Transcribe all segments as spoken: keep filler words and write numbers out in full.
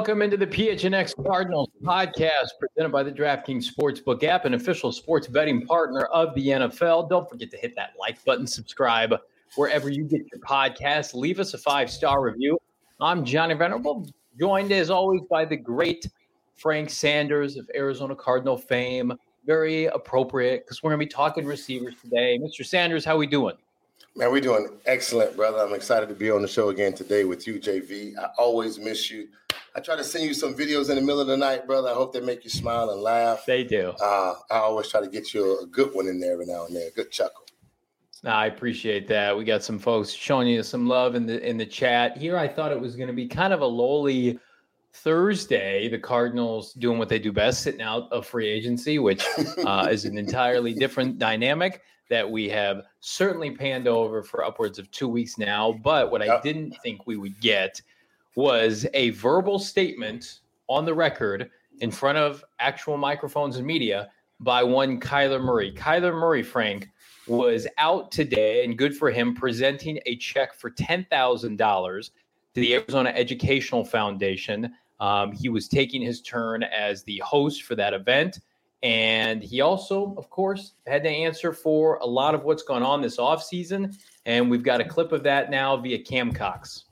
Welcome into the P H N X Cardinals podcast presented by the DraftKings Sportsbook app, an official sports betting partner of the N F L. Don't forget to hit that like button, subscribe wherever you get your podcasts. Leave us a five-star review. I'm Johnny Venerable, joined as always by the great Frank Sanders of Arizona Cardinal fame. Very appropriate because we're going to be talking receivers today. Mister Sanders, how we doing? Man, we're doing excellent, brother. I'm excited to be on the show again today with you, J V. I always miss you. I try to send you some videos in the middle of the night, brother. I hope they make you smile and laugh. They do. Uh, I always try to get you a good one in there every now and then, a good chuckle. No, I appreciate that. We got some folks showing you some love in the in the chat. Here, I thought it was going to be kind of a lowly Thursday. The Cardinals doing what they do best, sitting out of free agency, which uh, is an entirely different dynamic that we have certainly panned over for upwards of two weeks now. But what I didn't think we would get was a verbal statement on the record in front of actual microphones and media by one Kyler Murray. Kyler Murray, Frank, was out today, and good for him, presenting a check for ten thousand dollars to the Arizona Educational Foundation. Um, he was taking his turn as the host for that event. And he also, of course, had to answer for a lot of what's gone on this offseason. And we've got a clip of that now via Cam Cox.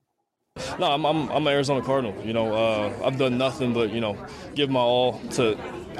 No, I'm I'm I'm an Arizona Cardinal. You know, uh, I've done nothing but you know give my all to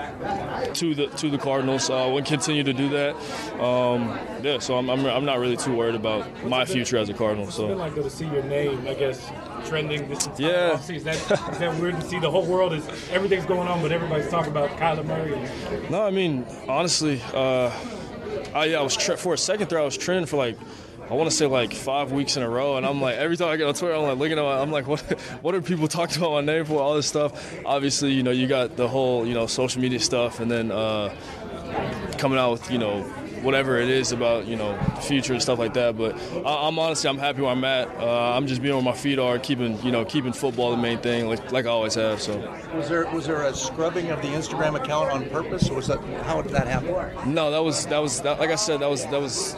to the to the Cardinals. I uh, will continue to do that. Um, yeah, so I'm, I'm I'm not really too worried about my future as a Cardinal. So. It's been like to see your name, I guess, trending this entire yeah. offseason. Is that, is that weird to see? The whole world is everything's going on, but everybody's talking about Kyler Murray. No, I mean honestly, uh, I yeah, I was tre- for a second there I was trending for like. I want to say like five weeks in a row, and I'm like, every time I get on Twitter, I'm like looking at, my, I'm like, what, what are people talking about my name for? All this stuff. Obviously, you know, you got the whole, you know, social media stuff, and then uh, coming out with, you know, whatever it is about, you know, the future and stuff like that. But I, I'm honestly, I'm happy where I'm at. Uh, I'm just being where my feet are, keeping, you know, keeping football the main thing, like like I always have. So. Was there was there a scrubbing of the Instagram account on purpose, or was that how did that happen? No, that was that was that, like I said, that was that was.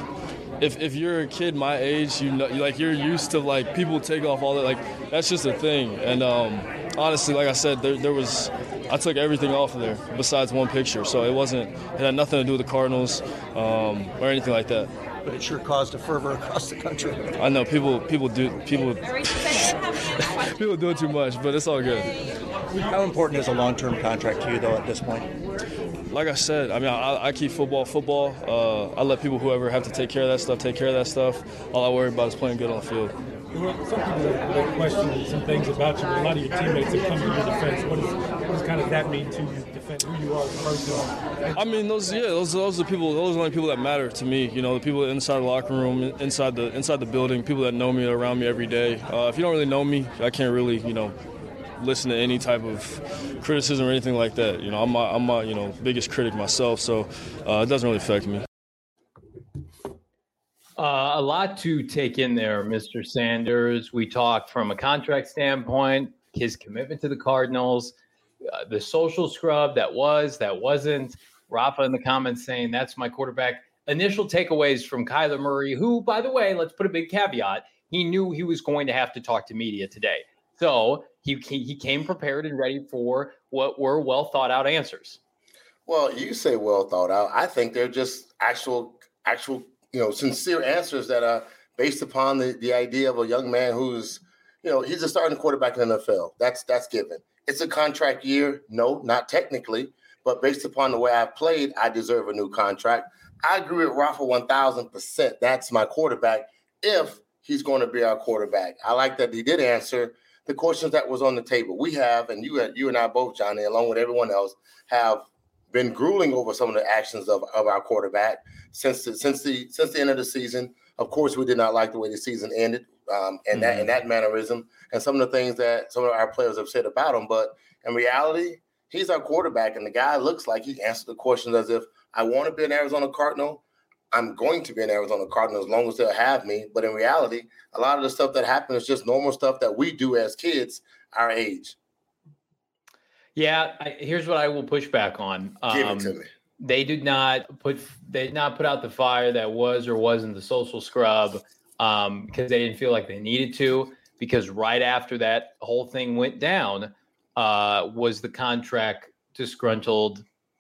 If if you're a kid my age, you know, like you're used to like people take off all that, like that's just a thing. And um, honestly, like I said, there there was, I took everything off of there besides one picture, so it wasn't, it had nothing to do with the Cardinals um, or anything like that. But it sure caused a fervor across the country. I know people people do people people do it too much, but it's all good. How important is a long-term contract to you though at this point? Like I said, I mean, I, I keep football football. Uh, I let people, whoever have to take care of that stuff, take care of that stuff. All I worry about is playing good on the field. Well, some people have questioned some things about you. A lot of your teammates have come to your defense. What, is, what does kind of that mean to you, defend who you are as a person? I mean, those yeah, those those are the people. Those are the only people that matter to me. You know, the people inside the locker room, inside the inside the building, people that know me, around me every day. Uh, if you don't really know me, I can't really, you know, listen to any type of criticism or anything like that. You know, I'm my, I'm my you know biggest critic myself, so uh, it doesn't really affect me. Uh, a lot to take in there, Mister Sanders. We talked from a contract standpoint, his commitment to the Cardinals, uh, the social scrub that was, that wasn't. Rafa in the comments saying that's my quarterback. Initial takeaways from Kyler Murray, who, by the way, let's put a big caveat. He knew he was going to have to talk to media today. So he he came prepared and ready for what were well thought out answers. Well, you say well thought out. I think they're just actual, actual, you know, sincere answers that are based upon the, the idea of a young man who's, you know, he's a starting quarterback in the N F L. That's that's given. It's a contract year. No, not technically, but based upon the way I've played, I deserve a new contract. I agree with Rafa one thousand percent. That's my quarterback if he's going to be our quarterback. I like that he did answer the questions that was on the table. We have, and you you and I both, Johnny, along with everyone else, have been grueling over some of the actions of, of our quarterback since the, since the since the end of the season. Of course, we did not like the way the season ended, um, and mm-hmm. that and that mannerism, and some of the things that some of our players have said about him. But in reality, he's our quarterback, and the guy looks like he answered the questions as if I want to be an Arizona Cardinal. I'm going to be an Arizona Cardinal as long as they'll have me. But in reality, a lot of the stuff that happens is just normal stuff that we do as kids our age. Yeah, I, here's what I will push back on. Um, Give it to me. They did not put they did not put out the fire that was or wasn't the social scrub um, because they didn't feel like they needed to. because right after that whole thing went down uh, was the contract disgruntled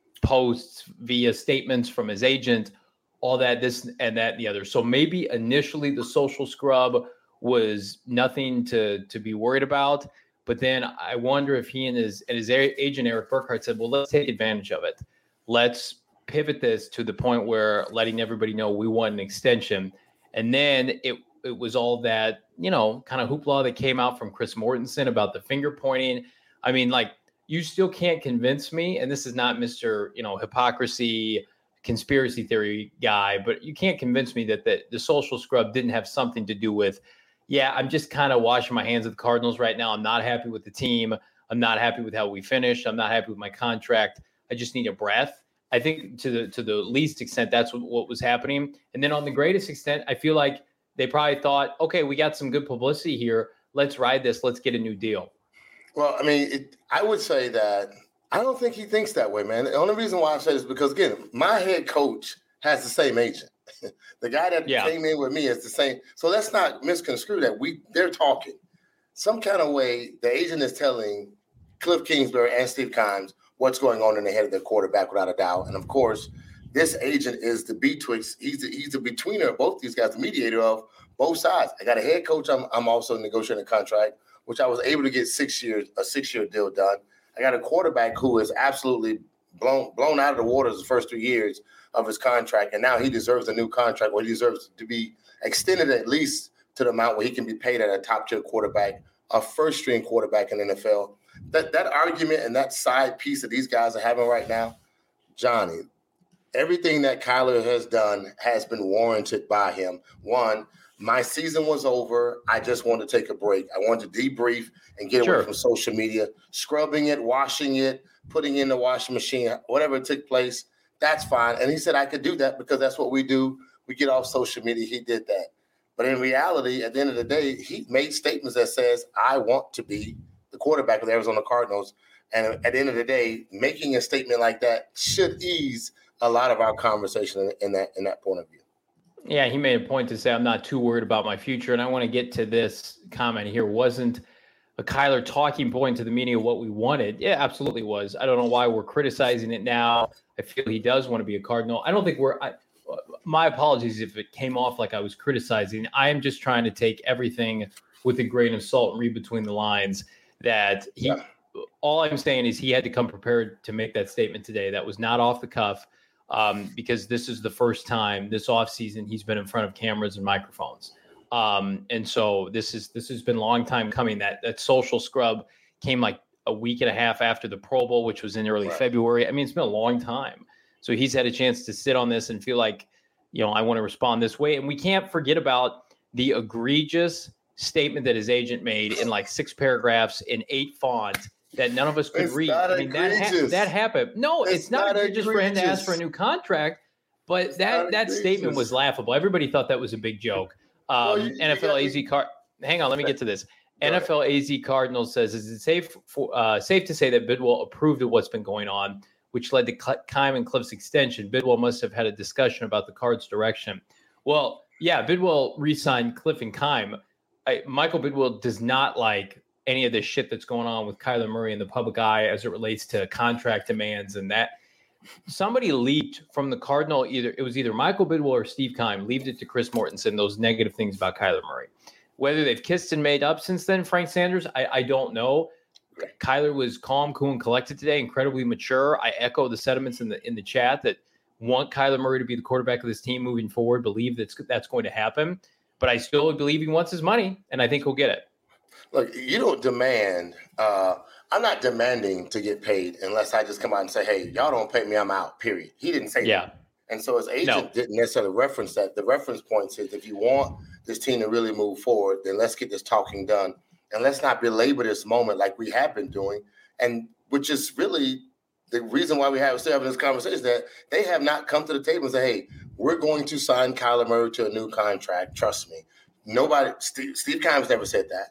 posts via statements from his agent, all that, this and that and the other. So maybe initially the social scrub was nothing to, to be worried about. But then I wonder if he and his and his agent, Eric Burkhart, said, well, let's take advantage of it. Let's pivot this to the point where letting everybody know we want an extension. And then it it was all that, you know, kind of hoopla that came out from Chris Mortensen about the finger pointing. I mean, like, you still can't convince me, and this is not Mister, you know, hypocrisy, conspiracy theory guy, but you can't convince me that the, the social scrub didn't have something to do with, yeah, I'm just kind of washing my hands of the Cardinals right now. I'm not happy with the team. I'm not happy with how we finished. I'm not happy with my contract. I just need a breath. I think to the to the least extent, that's what, what was happening. And then on the greatest extent, I feel like they probably thought, okay, we got some good publicity here. Let's ride this. Let's get a new deal. Well, I mean, it, I would say that I don't think he thinks that way, man. The only reason why I say this is because, again, my head coach has the same agent. The guy that yeah. came in with me is the same. So let's not misconstrue that. We they're talking. Some kind of way, the agent is telling Cliff Kingsbury and Steve Keim what's going on in the head of their quarterback, without a doubt. And, of course, this agent is the betwixt. He's the, he's the betweener of both these guys, the mediator of both sides. I got a head coach. I'm, I'm also negotiating a contract, which I was able to get six years, a six-year deal done. I got a quarterback who is absolutely blown blown out of the waters the first three years of his contract, and now he deserves a new contract, or he deserves to be extended at least to the amount where he can be paid at a top-tier quarterback, a first-string quarterback in the N F L. That that argument and that side piece that these guys are having right now, Johnny, everything that Kyler has done has been warranted by him. One, my season was over. I just wanted to take a break. I wanted to debrief and get sure. away from social media, scrubbing it, washing it, putting it in the washing machine, whatever took place. That's fine. And he said I could do that because that's what we do. We get off social media. He did that. But in reality, at the end of the day, he made statements that says, I want to be the quarterback of the Arizona Cardinals. And at the end of the day, making a statement like that should ease a lot of our conversation in that in that point of view. Yeah, he made a point to say, I'm not too worried about my future. And I want to get to this comment here. Wasn't a Kyler talking point to the media what we wanted? Yeah, absolutely was. I don't know why we're criticizing it now. I feel he does want to be a Cardinal. I don't think we're I, – my apologies if it came off like I was criticizing. I am just trying to take everything with a grain of salt and read between the lines that he yeah. – all I'm saying is he had to come prepared to make that statement today. That was not off the cuff. Um, because this is the first time this offseason he's been in front of cameras and microphones. Um, and so this is this has been a long time coming. That that social scrub came like a week and a half after the Pro Bowl, which was in early right. February. I mean, it's been a long time. So he's had a chance to sit on this and feel like, you know, I want to respond this way. And we can't forget about the egregious statement that his agent made in like six paragraphs in eight font that none of us could it's read. I mean, that, ha- that happened. No, it's, it's not, not egregious for him to ask for a new contract, but it's that, that statement was laughable. Everybody thought that was a big joke. Um, well, you, N F L you A Z Card. Hang on, let me get to this. Go N F L ahead. A Z Cardinals says, is it safe for uh, safe to say that Bidwell approved of what's been going on, which led to Keim and Cliff's extension? Bidwell must have had a discussion about the Cards' direction. Well, yeah, Bidwell re-signed Cliff and Keim. I, Michael Bidwell does not like any of this shit that's going on with Kyler Murray in the public eye as it relates to contract demands and that. Somebody leaked from the Cardinal, either it was either Michael Bidwell or Steve Keim, leaked it to Chris Mortensen, those negative things about Kyler Murray. Whether they've kissed and made up since then, Frank Sanders, I, I don't know. Kyler was calm, cool, and collected today, incredibly mature. I echo the sentiments in the in the chat that want Kyler Murray to be the quarterback of this team moving forward, believe that's that's going to happen. But I still believe he wants his money, and I think he'll get it. Look, you don't demand uh, – I'm not demanding to get paid unless I just come out and say, hey, y'all don't pay me, I'm out, period. He didn't say yeah. that. And so his agent no. didn't necessarily reference that. The reference point says if you want this team to really move forward, then let's get this talking done. And let's not belabor this moment like we have been doing, and which is really the reason why we have still having this conversation, is that they have not come to the table and say, hey, we're going to sign Kyler Murray to a new contract. Trust me. Nobody – Steve, Steve Keim's never said that.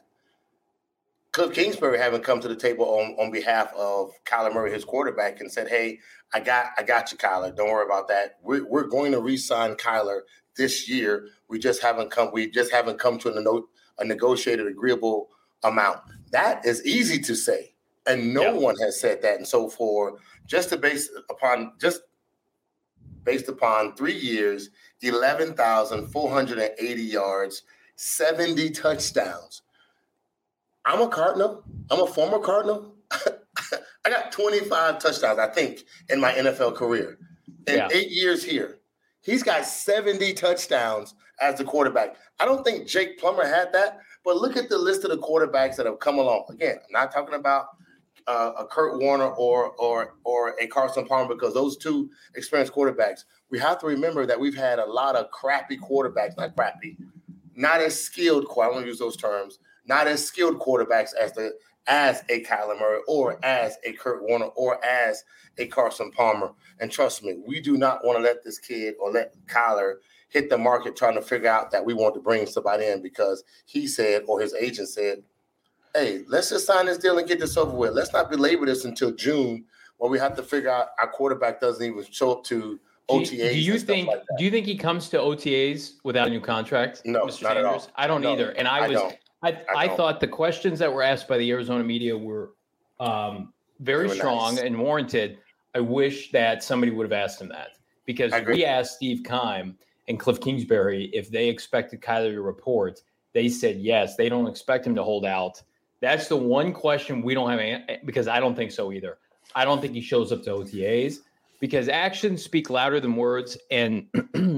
Cliff Kingsbury haven't come to the table on, on behalf of Kyler Murray, his quarterback, and said, hey, I got I got you, Kyler. Don't worry about that. We're, we're going to re-sign Kyler this year. We just haven't come we just haven't come to a, no, a negotiated, agreeable amount. That is easy to say, and no yeah. one has said that. And so, for just to base upon just based upon three years, eleven thousand four hundred eighty yards, seventy touchdowns. I'm a Cardinal. I'm a former Cardinal. I got twenty-five touchdowns, I think, in my N F L career. In yeah. eight years here. He's got seventy touchdowns as the quarterback. I don't think Jake Plummer had that, but look at the list of the quarterbacks that have come along. Again, I'm not talking about uh, a Kurt Warner or or or a Carson Palmer, because those two experienced quarterbacks. We have to remember that we've had a lot of crappy quarterbacks, not crappy, not as skilled, I don't want to use those terms, not as skilled quarterbacks as the as a Kyler Murray or as a Kurt Warner or as a Carson Palmer. And trust me, we do not want to let this kid or let Kyler hit the market trying to figure out that we want to bring somebody in because he said, or his agent said, hey, let's just sign this deal and get this over with. Let's not belabor this until June when we have to figure out our quarterback doesn't even show up to O T As. Do you think like do you think he comes to O T As without a new contract? No, Mister not Sanders? at all. I don't no, either. And I, I was don't. I, I, I thought the questions that were asked by the Arizona media were um, very strong nice. and warranted. I wish that somebody would have asked him that, because we asked Steve Keim and Cliff Kingsbury if they expected Kyler to report. They said yes. They don't expect him to hold out. That's the one question we don't have, because I don't think so either. I don't think he shows up to O T As, because actions speak louder than words. And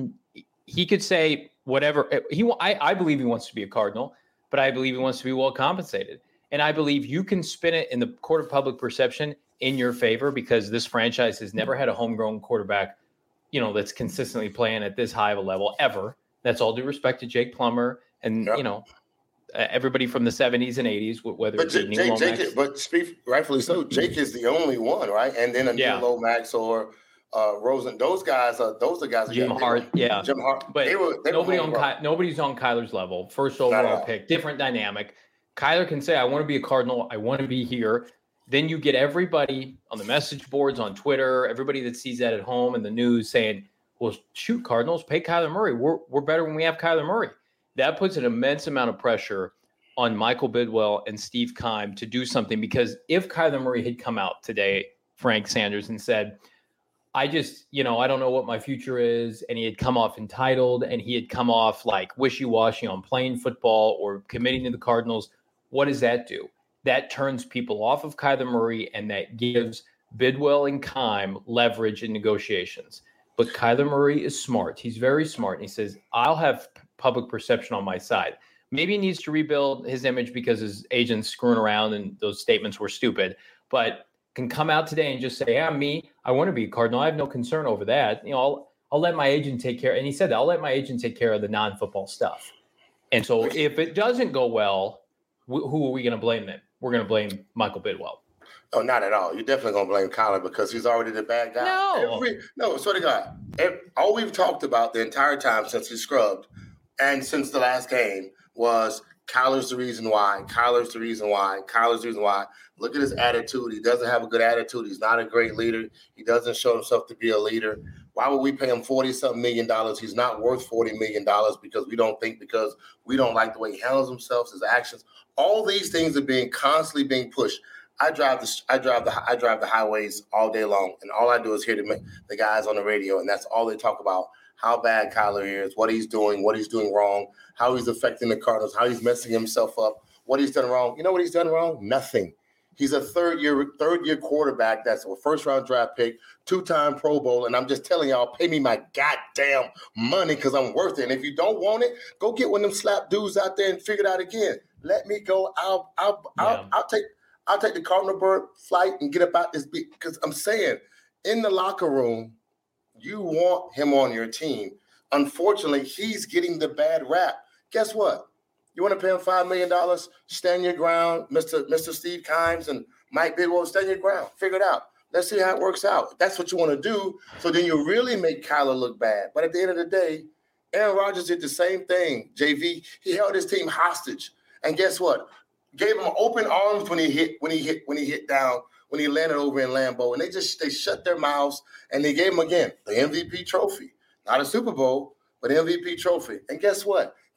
he could say whatever. He, I, I believe he wants to be a Cardinal, but I believe he wants to be well compensated. And I believe you can spin it in the court of public perception in your favor, because this franchise has never had a homegrown quarterback, you know, that's consistently playing at this high of a level ever. That's all due respect to Jake Plummer and, yep. you know, uh, everybody from the seventies and eighties, whether but it's Jake, Neil Jake, Lomax. Jake, but speak, rightfully so, Jake is the only one, right? And then a Neil yeah. Lomax or uh, Rosen, those guys are those are the guys. Jim Hart, yeah, Jim Hart, but they were, they nobody were on Ky- nobody's on Kyler's level. First overall pick, different dynamic. Kyler can say, "I want to be a Cardinal. I want to be here." Then you get everybody on the message boards, on Twitter, everybody that sees that at home in the news saying, well, shoot, Cardinals, pay Kyler Murray. We're we're better when we have Kyler Murray. That puts an immense amount of pressure on Michael Bidwell and Steve Keim to do something, because if Kyler Murray had come out today, Frank Sanders, and said, I just, you know, I don't know what my future is, and he had come off entitled, and he had come off like wishy-washy on playing football or committing to the Cardinals, what does that do? That turns people off of Kyler Murray, and that gives Bidwell and Keim leverage in negotiations. But Kyler Murray is smart. He's very smart. And he says, I'll have public perception on my side. Maybe he needs to rebuild his image because his agent's screwing around and those statements were stupid, but can come out today and just say, yeah, me, I want to be a Cardinal. I have no concern over that. You know, I'll, I'll let my agent take care. And he said that I'll let my agent take care of the non-football stuff. And so if it doesn't go well, wh- who are we going to blame then? We're going to blame Michael Bidwell. Oh, not at all. You're definitely going to blame Kyler because he's already the bad guy. No. Every, no, swear to God. Every, all we've talked about the entire time since he scrubbed and since the last game was Kyler's the reason why, Kyler's the reason why, Kyler's the reason why. Look at his attitude. He doesn't have a good attitude. He's not a great leader. He doesn't show himself to be a leader. Why would we pay him forty-something million dollars? He's not worth forty million dollars because we don't think, because we don't like the way he handles himself, his actions. All these things are being constantly being pushed. I drive the I drive the I drive the highways all day long, and all I do is hear the, the guys on the radio, and that's all they talk about: how bad Kyler is, what he's doing, what he's doing wrong, how he's affecting the Cardinals, how he's messing himself up, what he's done wrong. You know what he's done wrong? Nothing. He's a third year third year quarterback that's a first round draft pick, two time Pro Bowl, and I'm just telling y'all, pay me my goddamn money because I'm worth it. And if you don't want it, go get one of them slap dudes out there and figure it out again. Let me go. I'll I'll yeah. I'll, I'll take. I'll take the Cardinal bird flight and get about this beat, because I'm saying in the locker room, you want him on your team. Unfortunately, he's getting the bad rap. Guess what? You want to pay him five million dollars? Stand your ground, Mister Mister Steve Keim and Mike Bidwell, stand your ground. Figure it out. Let's see how it works out. If that's what you want to do, so then you really make Kyler look bad. But at the end of the day, Aaron Rodgers did the same thing, J V. He held his team hostage. And guess what? Gave him open arms when he hit, when he hit, when he hit down, when he landed over in Lambeau, and they just they shut their mouths and they gave him again the M V P trophy, not a Super Bowl, but M V P trophy. And guess what?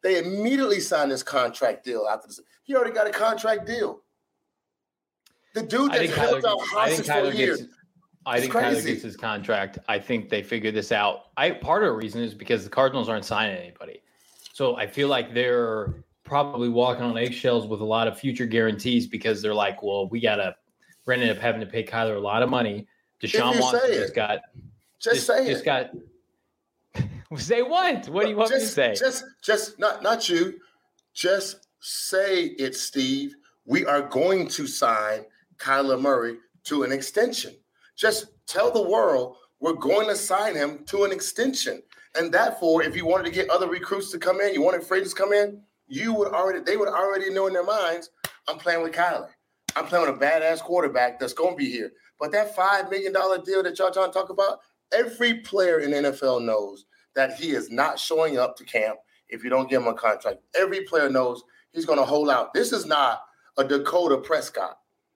They immediately signed this contract deal after this. He already got a contract deal. The dude that held out hostage for a year. I think Kyler gets his contract. I think they figured this out. I part of the reason is because the Cardinals aren't signing anybody. So I feel like they're probably walking on eggshells with a lot of future guarantees because they're like, well, we got to – we're ended up having to pay Kyler a lot of money. Deshaun Watson just got – Just, just say just it. got – Say what? What do you want just, me to say? Just, just not, not you. Just say it, Steve. We are going to sign Kyler Murray to an extension. Just tell the world we're going to sign him to an extension. And therefore, if you wanted to get other recruits to come in, you wanted free agents to come in, you would already they would already know in their minds, I'm playing with Kyler. I'm playing with a badass quarterback that's going to be here. But that five million dollars deal that y'all trying to talk about, every player in the N F L knows that he is not showing up to camp if you don't give him a contract. Every player knows he's going to hold out. This is not a Dakota Prescott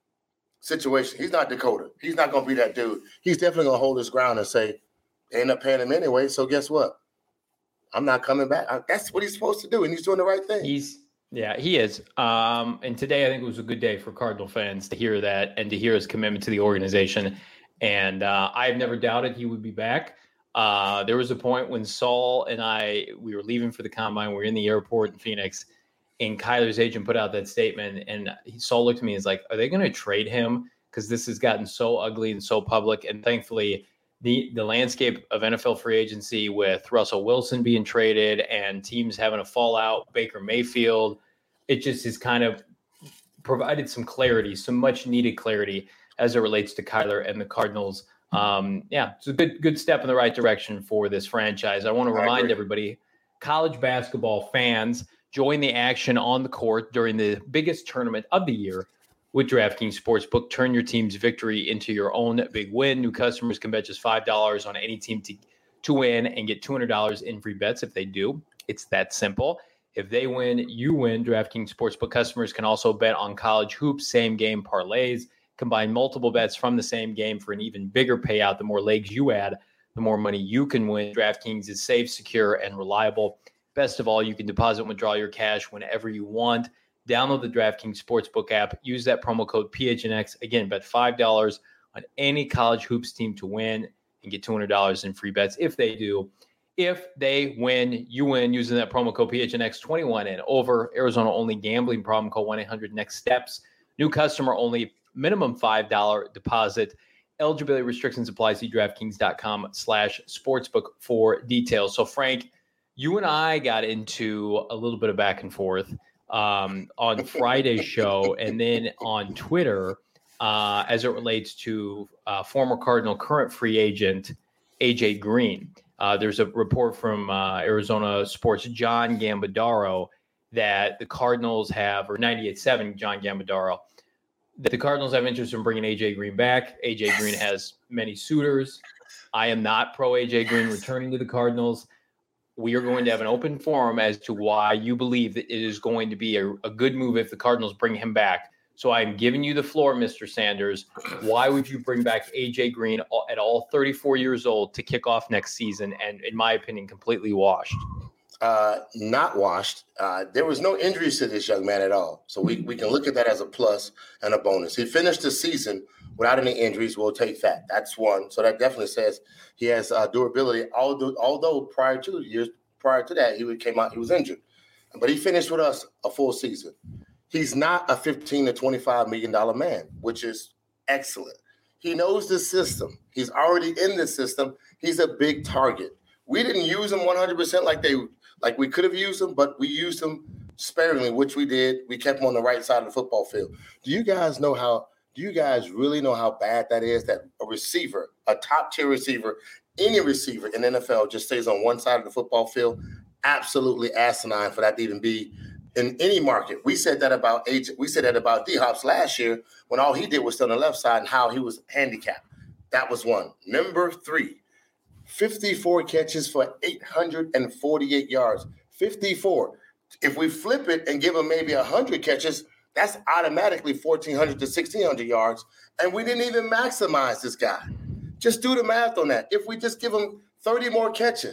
situation. He's not Dakota. He's not going to be that dude. He's definitely going to hold his ground and say, they end up paying him anyway, so guess what? I'm not coming back. That's what he's supposed to do, and he's doing the right thing. He's Yeah, he is. Um, and today I think it was a good day for Cardinal fans to hear that and to hear his commitment to the organization. And uh, I've never doubted he would be back. Uh, there was a point when Saul and I, we were leaving for the combine. We were in the airport in Phoenix, and Kyler's agent put out that statement. And he, Saul looked at me and was like, are they going to trade him? Because this has gotten so ugly and so public. And thankfully, the, the landscape of N F L free agency with Russell Wilson being traded and teams having a fallout, Baker Mayfield, it just has kind of provided some clarity, some much needed clarity as it relates to Kyler and the Cardinals. Um, yeah, it's a good good step in the right direction for this franchise. I want to remind everybody, college basketball fans, join the action on the court during the biggest tournament of the year with DraftKings Sportsbook. Turn your team's victory into your own big win. New customers can bet just five dollars on any team to, to win and get two hundred dollars in free bets if they do. It's that simple. If they win, you win. DraftKings Sportsbook customers can also bet on college hoops, same game parlays. Combine multiple bets from the same game for an even bigger payout. The more legs you add, the more money you can win. DraftKings is safe, secure, and reliable. Best of all, you can deposit and withdraw your cash whenever you want. Download the DraftKings Sportsbook app. Use that promo code P H N X. Again, bet five dollars on any college hoops team to win and get two hundred dollars in free bets if they do. If they win, you win using that promo code P H N X twenty-one and over. Arizona only gambling problem. Call one eight hundred next steps. New customer only. Minimum five dollars deposit. Eligibility restrictions apply. See DraftKings.com slash sportsbook for details. So, Frank, you and I got into a little bit of back and forth um, on Friday's show and then on Twitter uh, as it relates to uh, former Cardinal, current free agent A J Green. Uh, there's a report from uh, Arizona Sports' John Gambadaro that the Cardinals have, or ninety-eight point seven John Gambadaro, that the Cardinals have interest in bringing A J Green back. A J Green has many suitors. I am not pro A J Green returning to the Cardinals. We are going to have an open forum as to why you believe that it is going to be a, a good move if the Cardinals bring him back. So I'm giving you the floor, Mister Sanders. Why would you bring back A J Green at all thirty-four years old to kick off next season and, in my opinion, completely washed? Uh, not washed. Uh, there was no injuries to this young man at all. So we, we can look at that as a plus and a bonus. He finished the season without any injuries. We'll take that. That's one. So that definitely says he has uh, durability. Although, although prior to years prior to that, he came out, he was injured. But he finished with us a full season. He's not a fifteen to twenty-five million dollars man, which is excellent. He knows the system. He's already in the system. He's a big target. We didn't use him one hundred percent like they like we could have used him, but we used him sparingly, which we did. We kept him on the right side of the football field. Do you guys know how do you guys really know how bad that is, that a receiver, a top-tier receiver, any receiver in the N F L just stays on one side of the football field? Absolutely asinine for that to even be in any market. We said that about A J, we said that about D-Hops last year when all he did was stay on the left side and how he was handicapped. That was one. Number three, fifty-four catches for eight hundred forty-eight yards. fifty-four. If we flip it and give him maybe one hundred catches, that's automatically fourteen hundred to sixteen hundred yards. And we didn't even maximize this guy. Just do the math on that. If we just give him thirty more catches,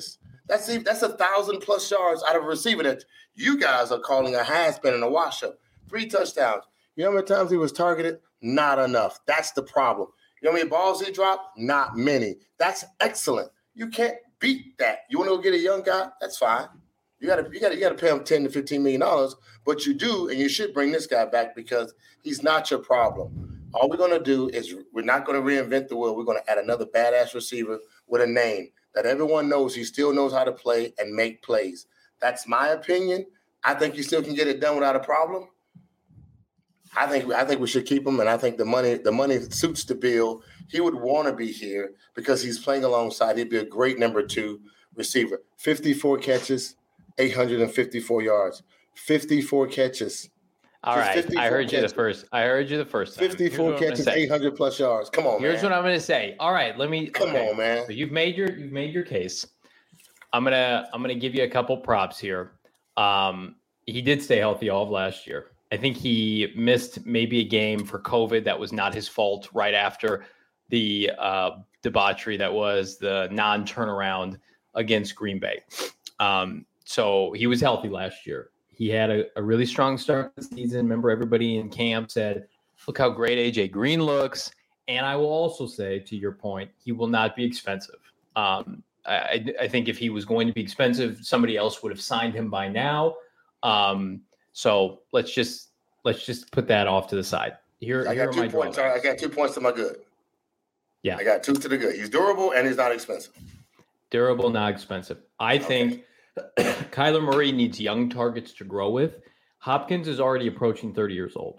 That's that's a thousand plus yards out of a receiver that you guys are calling a has-been and a wash-up. Three touchdowns. You know how many times he was targeted? Not enough. That's the problem. You know how many balls he dropped? Not many. That's excellent. You can't beat that. You want to go get a young guy? That's fine. You got to you got to you got to pay him ten to fifteen million dollars, but you do, and you should bring this guy back because he's not your problem. All we're going to do is we're not going to reinvent the wheel. We're going to add another badass receiver with a name that everyone knows he still knows how to play and make plays. That's my opinion. I think you still can get it done without a problem. I think I think we should keep him, and I think the money the money suits the bill. He would want to be here because he's playing alongside. He'd be a great number two receiver. fifty-four catches, eight hundred fifty-four yards. fifty-four catches. All right, I heard catches. you the first. I heard you the first time. fifty-four catches, eight hundred plus yards. Come on, Here's man. what I'm going to say. All right, let me. Come okay. on, man. So you've made your you've made your case. I'm gonna I'm gonna give you a couple props here. Um, he did stay healthy all of last year. I think he missed maybe a game for COVID. That was not his fault. Right after the uh, debauchery that was the non-turnaround against Green Bay. Um, so he was healthy last year. He had a, a really strong start to the season. Remember, everybody in camp said, look how great A J Green looks. And I will also say, to your point, he will not be expensive. Um, I, I think if he was going to be expensive, somebody else would have signed him by now. Um, so let's just let's just put that off to the side. Here, I here got are my two points. I got two points to my good. Yeah, I got two to the good. He's durable and he's not expensive. Durable, not expensive. I think okay. Kyler Murray needs young targets to grow with. Hopkins is already approaching thirty years old.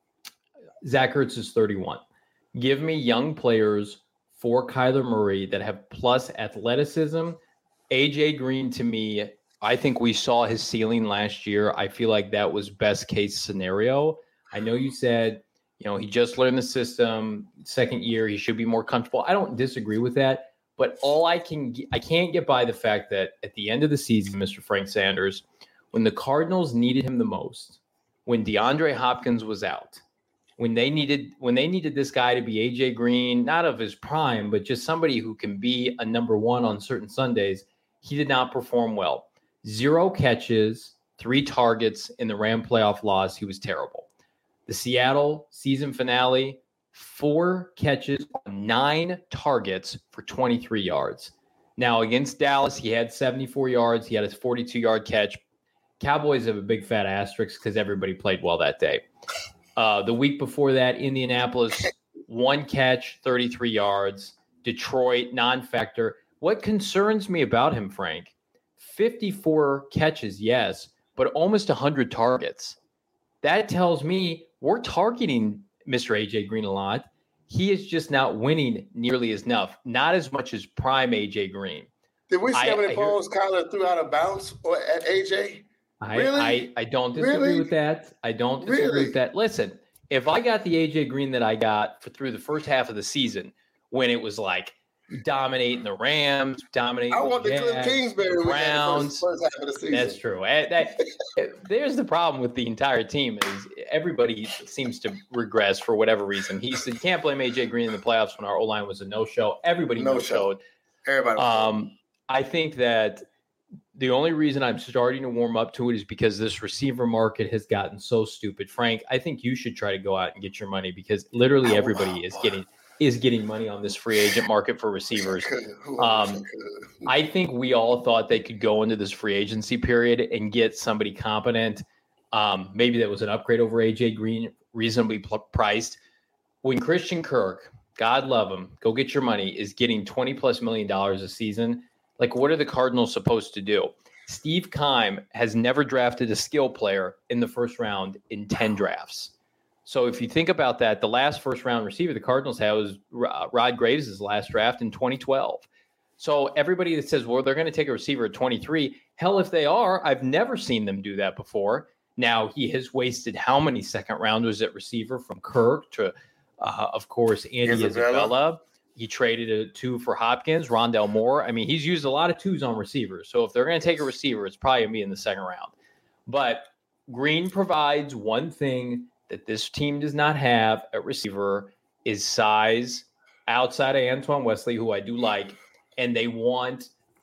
Zach Ertz is thirty-one. Give me young players for Kyler Murray that have plus athleticism. A J Green, to me, I think we saw his ceiling last year. I feel like that was best case scenario. I know you said, you know, he just learned the system, second year, he should be more comfortable. I don't disagree with that, but all I can, I can't get by the fact that at the end of the season, Mister Frank Sanders, when the Cardinals needed him the most, when DeAndre Hopkins was out, when they needed, when they needed this guy to be A J Green, not of his prime, but just somebody who can be a number one on certain Sundays, he did not perform well. Zero catches, three targets in the Ram playoff loss. He was terrible. The Seattle season finale, four catches, nine targets for twenty-three yards. Now, against Dallas, he had seventy-four yards. He had his forty-two-yard catch. Cowboys have a big fat asterisk because everybody played well that day. Uh, the week before that, Indianapolis, one catch, thirty-three yards. Detroit, non-factor. What concerns me about him, Frank, fifty-four catches, yes, but almost one hundred targets. That tells me we're targeting Mister A J Green a lot. He is just not winning nearly as enough, not as much as prime A J Green. Did we see I, how many I balls hear, Kyler threw out of bounds or at A J? I, really? I, I don't disagree really? with that. I don't disagree really? with that. Listen, if I got the A J Green that I got for through the first half of the season, when it was like dominating the Rams, dominating I want the the Cliff Kingsbury Browns. First, first half of the season. That's true. That, there's the problem with the entire team is everybody seems to regress for whatever reason. He said, can't blame A J Green in the playoffs when our O-line was a no-show. Everybody no no-showed. Everybody. Um, I think that the only reason I'm starting to warm up to it is because this receiver market has gotten so stupid. Frank, I think you should try to go out and get your money because literally everybody is getting – is getting money on this free agent market for receivers. Um, I think we all thought they could go into this free agency period and get somebody competent. Um, maybe that was an upgrade over A J Green, reasonably pl- priced. When Christian Kirk, God love him, go get your money, is getting twenty plus million dollars a season, like what are the Cardinals supposed to do? Steve Keim has never drafted a skill player in the first round in ten drafts. So if you think about that, the last first-round receiver the Cardinals had was Rod Graves' last draft in twenty twelve. So everybody that says, well, they're going to take a receiver at twenty-three, hell, if they are, I've never seen them do that before. Now, he has wasted how many second-rounders at receiver from Kirk to, uh, of course, Andy Isabella. Isabella. He traded a two for Hopkins, Rondell Moore. I mean, he's used a lot of twos on receivers. So if they're going to take a receiver, it's probably going to be in the second round. But Green provides one thing that this team does not have at receiver is size outside of Antoine Wesley, who I do like, and they want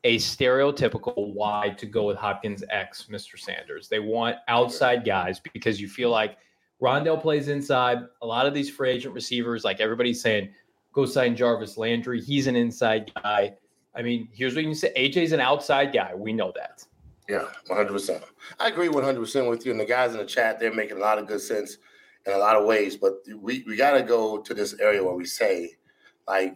a stereotypical why to go with Hopkins X, Mister Sanders. They want outside guys because you feel like Rondale plays inside. A lot of these free agent receivers, like everybody's saying, go sign Jarvis Landry. He's an inside guy. I mean, here's what you can say. A J's an outside guy. We know that. Yeah, one hundred percent. I agree one hundred percent with you. And the guys in the chat, they're making a lot of good sense in a lot of ways. But we, we got to go to this area where we say, like,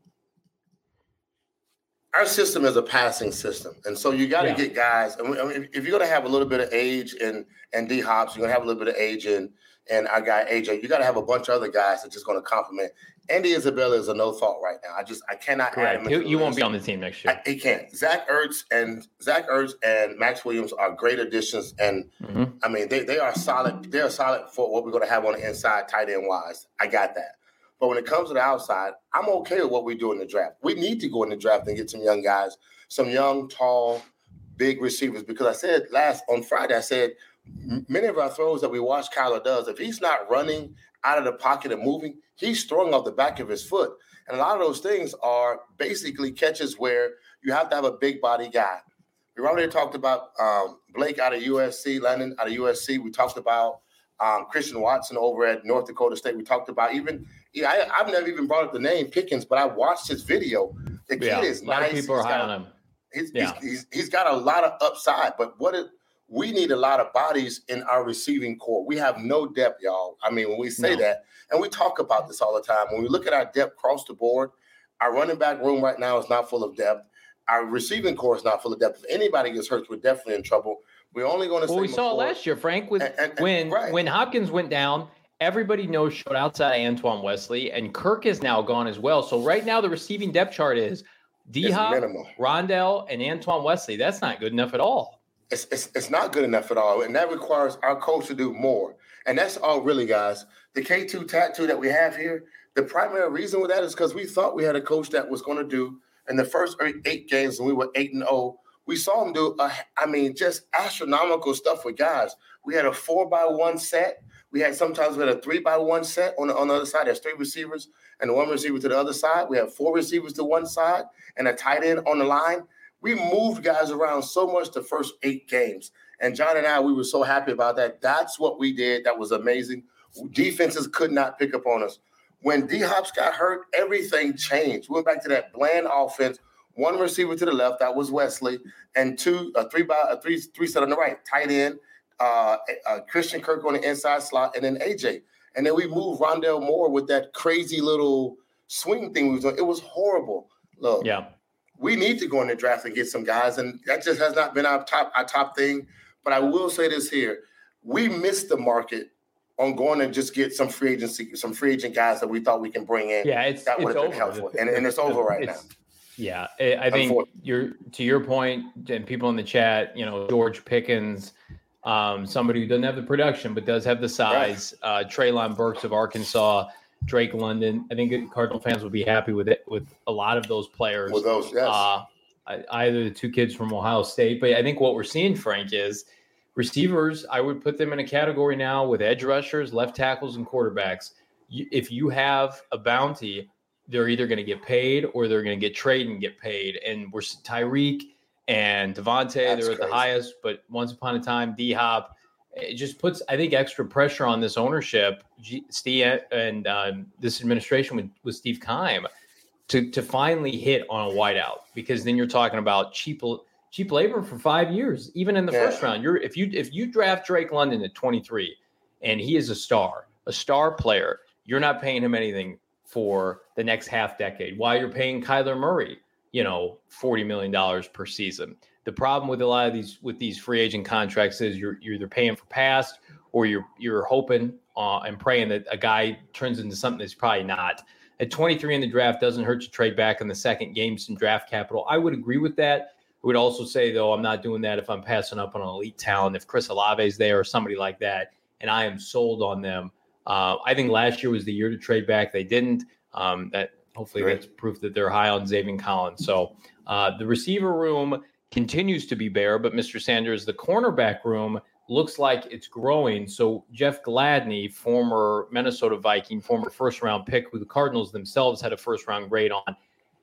our system is a passing system. And so you got to yeah. get guys. I mean, if you're going to have a little bit of age in, in D-Hops, you're going to have a little bit of age in, and our guy A J, you got to have a bunch of other guys that's just going to complement. Andy Isabella is a no thought right now. I just I cannot Correct. add him. You won't be on the team next year. I, he can't. Zach Ertz and Zach Ertz and Max Williams are great additions, and mm-hmm. I mean they they are solid. They are solid for what we're going to have on the inside, tight end wise. I got that. But when it comes to the outside, I'm okay with what we do in the draft. We need to go in the draft and get some young guys, some young, tall, big receivers. Because I said last on Friday, I said many of our throws that we watch Kyler does, if he's not running out of the pocket and moving, he's throwing off the back of his foot. And a lot of those things are basically catches where you have to have a big body guy. We already talked about um, Blake out of U S C, Landon out of U S C. We talked about um, Christian Watson over at North Dakota State. We talked about even yeah, I, I've never even brought up the name Pickens, but I watched his video. The kid yeah, is a lot nice. Of people he's are high got, on him. He's, yeah. he's, he's, he's got a lot of upside, but what it, we need a lot of bodies in our receiving core. We have no depth, y'all. I mean, when we say no. that, and we talk about this all the time, when we look at our depth across the board, our running back room right now is not full of depth. Our receiving core is not full of depth. If anybody gets hurt, we're definitely in trouble. We're only going to well, say we saw it last year, Frank, with and, and, and, when right. when Hopkins went down, everybody knows showed outside Antoine Wesley, and Kirk is now gone as well. So right now the receiving depth chart is D-Hop, Rondale, and Antoine Wesley. That's not good enough at all. It's, it's it's not good enough at all, and that requires our coach to do more. And that's all really, guys. The K two tattoo that we have here, the primary reason with that is because we thought we had a coach that was going to do in the first eight games when we were eight and oh. We saw him do, uh, I mean, just astronomical stuff with guys. We had a four by one set. We had sometimes we had a three by one set on the, on the other side. There's three receivers and one receiver to the other side. We have four receivers to one side and a tight end on the line. We moved guys around so much the first eight games. And John and I, we were so happy about that. That's what we did. That was amazing. Defenses could not pick up on us. When D-Hops got hurt, everything changed. We went back to that bland offense. One receiver to the left, that was Wesley, and two, a three by a three three set on the right, tight end, uh, uh, Christian Kirk on the inside slot, and then A J. And then we moved Rondale Moore with that crazy little swing thing we was doing. It was horrible. Look, yeah, we need to go in the draft and get some guys, and that just has not been our top our top thing. But I will say this here: we missed the market on going and just get some free agency, some free agent guys that we thought we can bring in. Yeah, it's that would have been over. helpful, and, and it's over right it's, now. Yeah, I think you're to your point, and people in the chat, you know, George Pickens, um, somebody who doesn't have the production but does have the size. Right. Uh, Treylon Burks of Arkansas, Drake London. I think Cardinal fans would be happy with it with a lot of those players. With those, yes. Uh, either the two kids from Ohio State, but I think what we're seeing, Frank, is receivers. I would put them in a category now with edge rushers, left tackles, and quarterbacks. You, if you have a bounty, they're either going to get paid or they're going to get traded and get paid. And we're Tyreek and Devontae, they're at crazy. the highest, but once upon a time, D-Hop, it just puts, I think, extra pressure on this ownership, G- Steve and um, this administration with, with Steve Keim to, to finally hit on a wideout, because then you're talking about cheap cheap labor for five years, even in the yeah. first round. You're if you if you draft Drake London at twenty-three and he is a star, a star player, you're not paying him anything for the next half decade, while you're paying Kyler Murray, you know, forty million dollars per season. The problem with a lot of these with these free agent contracts is you're you're either paying for past, or you're you're hoping uh, and praying that a guy turns into something that's probably not. At twenty-three in the draft, doesn't hurt to trade back in the second game some draft capital. I would agree with that. I would also say, though, I'm not doing that if I'm passing up on an elite talent. If Chris Olave is there or somebody like that, and I am sold on them. Uh, I think last year was the year to trade back. They didn't. Um, that hopefully right. that's proof that they're high on Zaven Collins. So uh, the receiver room continues to be bare, but Mister Sanders, the cornerback room looks like it's growing. So Jeff Gladney, former Minnesota Viking, former first round pick, who the Cardinals themselves had a first round grade on,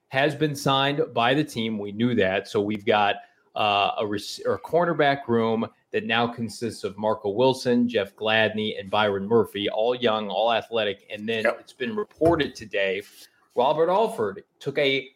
has been signed by the team. We knew that. So we've got uh, a, rec- or a cornerback room that now consists of Marco Wilson, Jeff Gladney, and Byron Murphy, all young, all athletic. And then yep. It's been reported today, Robert Alford took a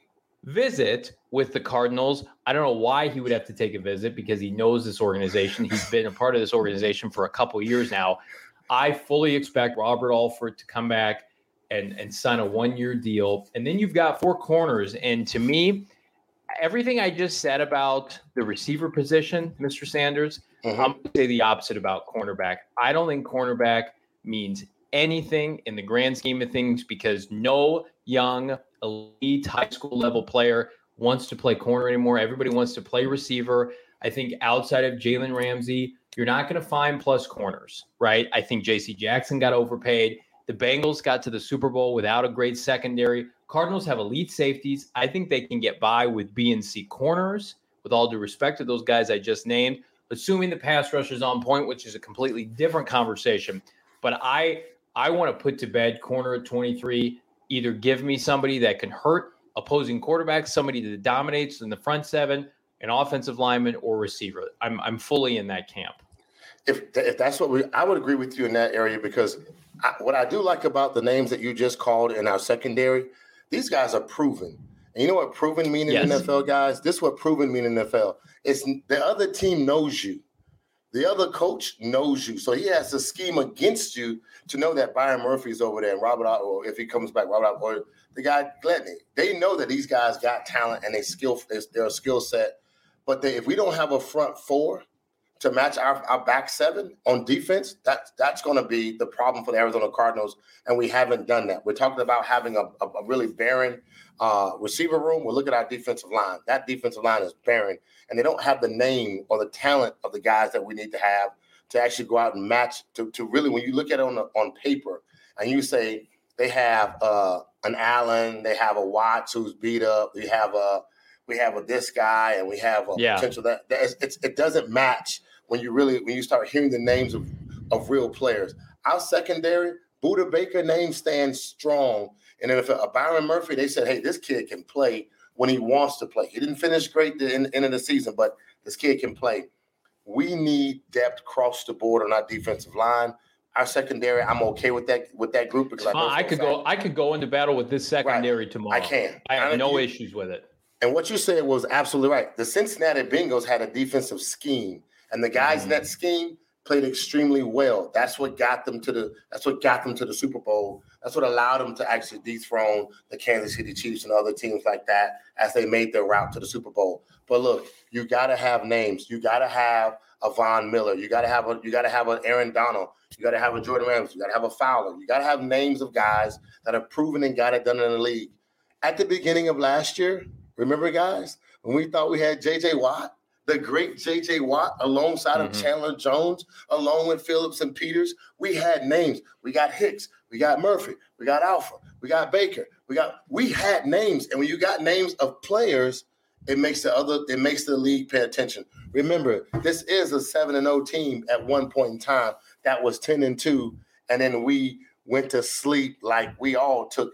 visit with the Cardinals. I don't know why he would have to take a visit because he knows this organization. He's been a part of this organization for a couple years now. I fully expect Robert Alford to come back and, and sign a one-year deal. And then you've got four corners. And to me, everything I just said about the receiver position, Mister Sanders, mm-hmm. I'm going to say the opposite about cornerback. I don't think cornerback means anything in the grand scheme of things because no young, elite high school level player wants to play corner anymore. Everybody wants to play receiver. I think outside of Jalen Ramsey, you're not going to find plus corners, right? I think J C Jackson got overpaid. The Bengals got to the Super Bowl without a great secondary. Cardinals have elite safeties. I think they can get by with B and C corners, with all due respect to those guys I just named, assuming the pass rush is on point, which is a completely different conversation. But I I want to put to bed corner at twenty-three. Either give me somebody that can hurt opposing quarterbacks, somebody that dominates in the front seven, an offensive lineman or receiver. I'm I'm fully in that camp. If if that's what we, I would agree with you in that area because I, what I do like about the names that you just called in our secondary, these guys are proven. And you know what proven mean in yes. the N F L, guys? This is what proven mean in the N F L. It's the other team knows you. The other coach knows you. So he has to scheme against you to know that Byron Murphy's over there and Robert, or if he comes back, Robert, or the guy Gladney. They know that these guys got talent and they skill, they're a skill set. But they, if we don't have a front four to match our, our back seven on defense, that, that's going to be the problem for the Arizona Cardinals, and we haven't done that. We're talking about having a, a, a really barren uh, receiver room. We'll look at our defensive line. That defensive line is barren, and they don't have the name or the talent of the guys that we need to have to actually go out and match, to, to really, when you look at it on, the, on paper, and you say they have uh, an Allen, they have a Watts who's beat up, we have a we have a this guy, and we have a yeah. potential that, that it's, it's, it doesn't match when you really when you start hearing the names of, of real players. Our secondary, Budda Baker name stands strong. And then if a Byron Murphy, they said, hey, this kid can play when he wants to play. He didn't finish great at the end, end of the season, but this kid can play. We need depth across the board on our defensive line. Our secondary, I'm okay with that with that group because I, uh, I could fact. go I could go into battle with this secondary right. tomorrow. I can. I have I no you, issues with it. And what you said was absolutely right. The Cincinnati Bengals had a defensive scheme, and the guys mm-hmm. in that scheme played extremely well. That's what got them to the that's what got them to the Super Bowl. That's what allowed them to actually dethrone the Kansas City Chiefs and other teams like that as they made their route to the Super Bowl. But look, you got to have names. You got to have a Von Miller. You got to have a you got to have an Aaron Donald. You got to have a Jordan Ramsey. You got to have a Fowler. You got to have names of guys that have proven and got it done in the league. At the beginning of last year, remember, guys, when we thought we had J J Watt, the great J J Watt, alongside mm-hmm. of Chandler Jones, along with Phillips and Peters, we had names. We got Hicks, we got Murphy, we got Alpha, we got Baker, we got we had names. And when you got names of players, it makes the other it makes the league pay attention. Remember, this is a seven and oh team at one point in time that was ten and two, and then we went to sleep like we all took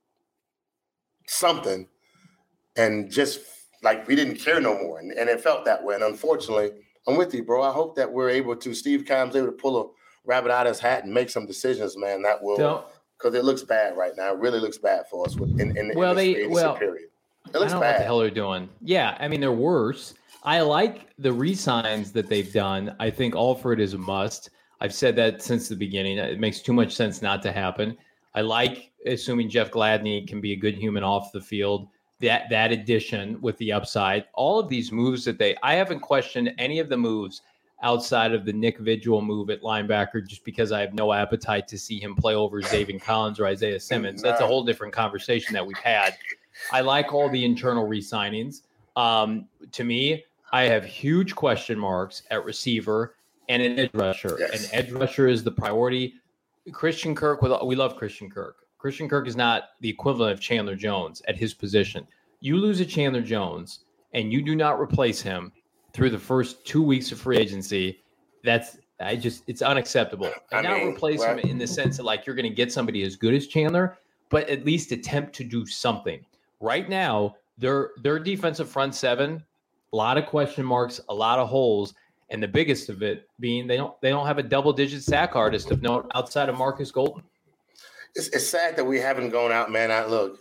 something and just like we didn't care no more. And, and it felt that way. And unfortunately, I'm with you, bro. I hope that we're able to, Steve Keim's able to pull a rabbit out of his hat and make some decisions, man, that will, because it looks bad right now. It really looks bad for us in, in, in well, this they, well, period. It looks I don't bad. know what the hell they're doing. Yeah, I mean, they're worse. I like the re-signs that they've done. I think Alford is a must. I've said that since the beginning. It makes too much sense not to happen. I like assuming Jeff Gladney can be a good human off the field. That that addition with the upside, all of these moves that they, I haven't questioned any of the moves outside of the Nick Vigil move at linebacker, just because I have no appetite to see him play over Zaven Collins or Isaiah Simmons. That's a whole different conversation that we've had. I like all the internal re-signings. Um, to me, I have huge question marks at receiver and an edge rusher. Yes. An edge rusher is the priority. Christian Kirk, we love Christian Kirk. Christian Kirk is not the equivalent of Chandler Jones at his position. You lose a Chandler Jones and you do not replace him through the first two weeks of free agency. That's I just it's unacceptable. And not replace well, him in the sense that like you're going to get somebody as good as Chandler, but at least attempt to do something. right now, their their defensive front seven, a lot of question marks, a lot of holes, and the biggest of it being they don't they don't have a double-digit sack artist of note outside of Marcus Golden. It's, it's sad that we haven't gone out, man. I look,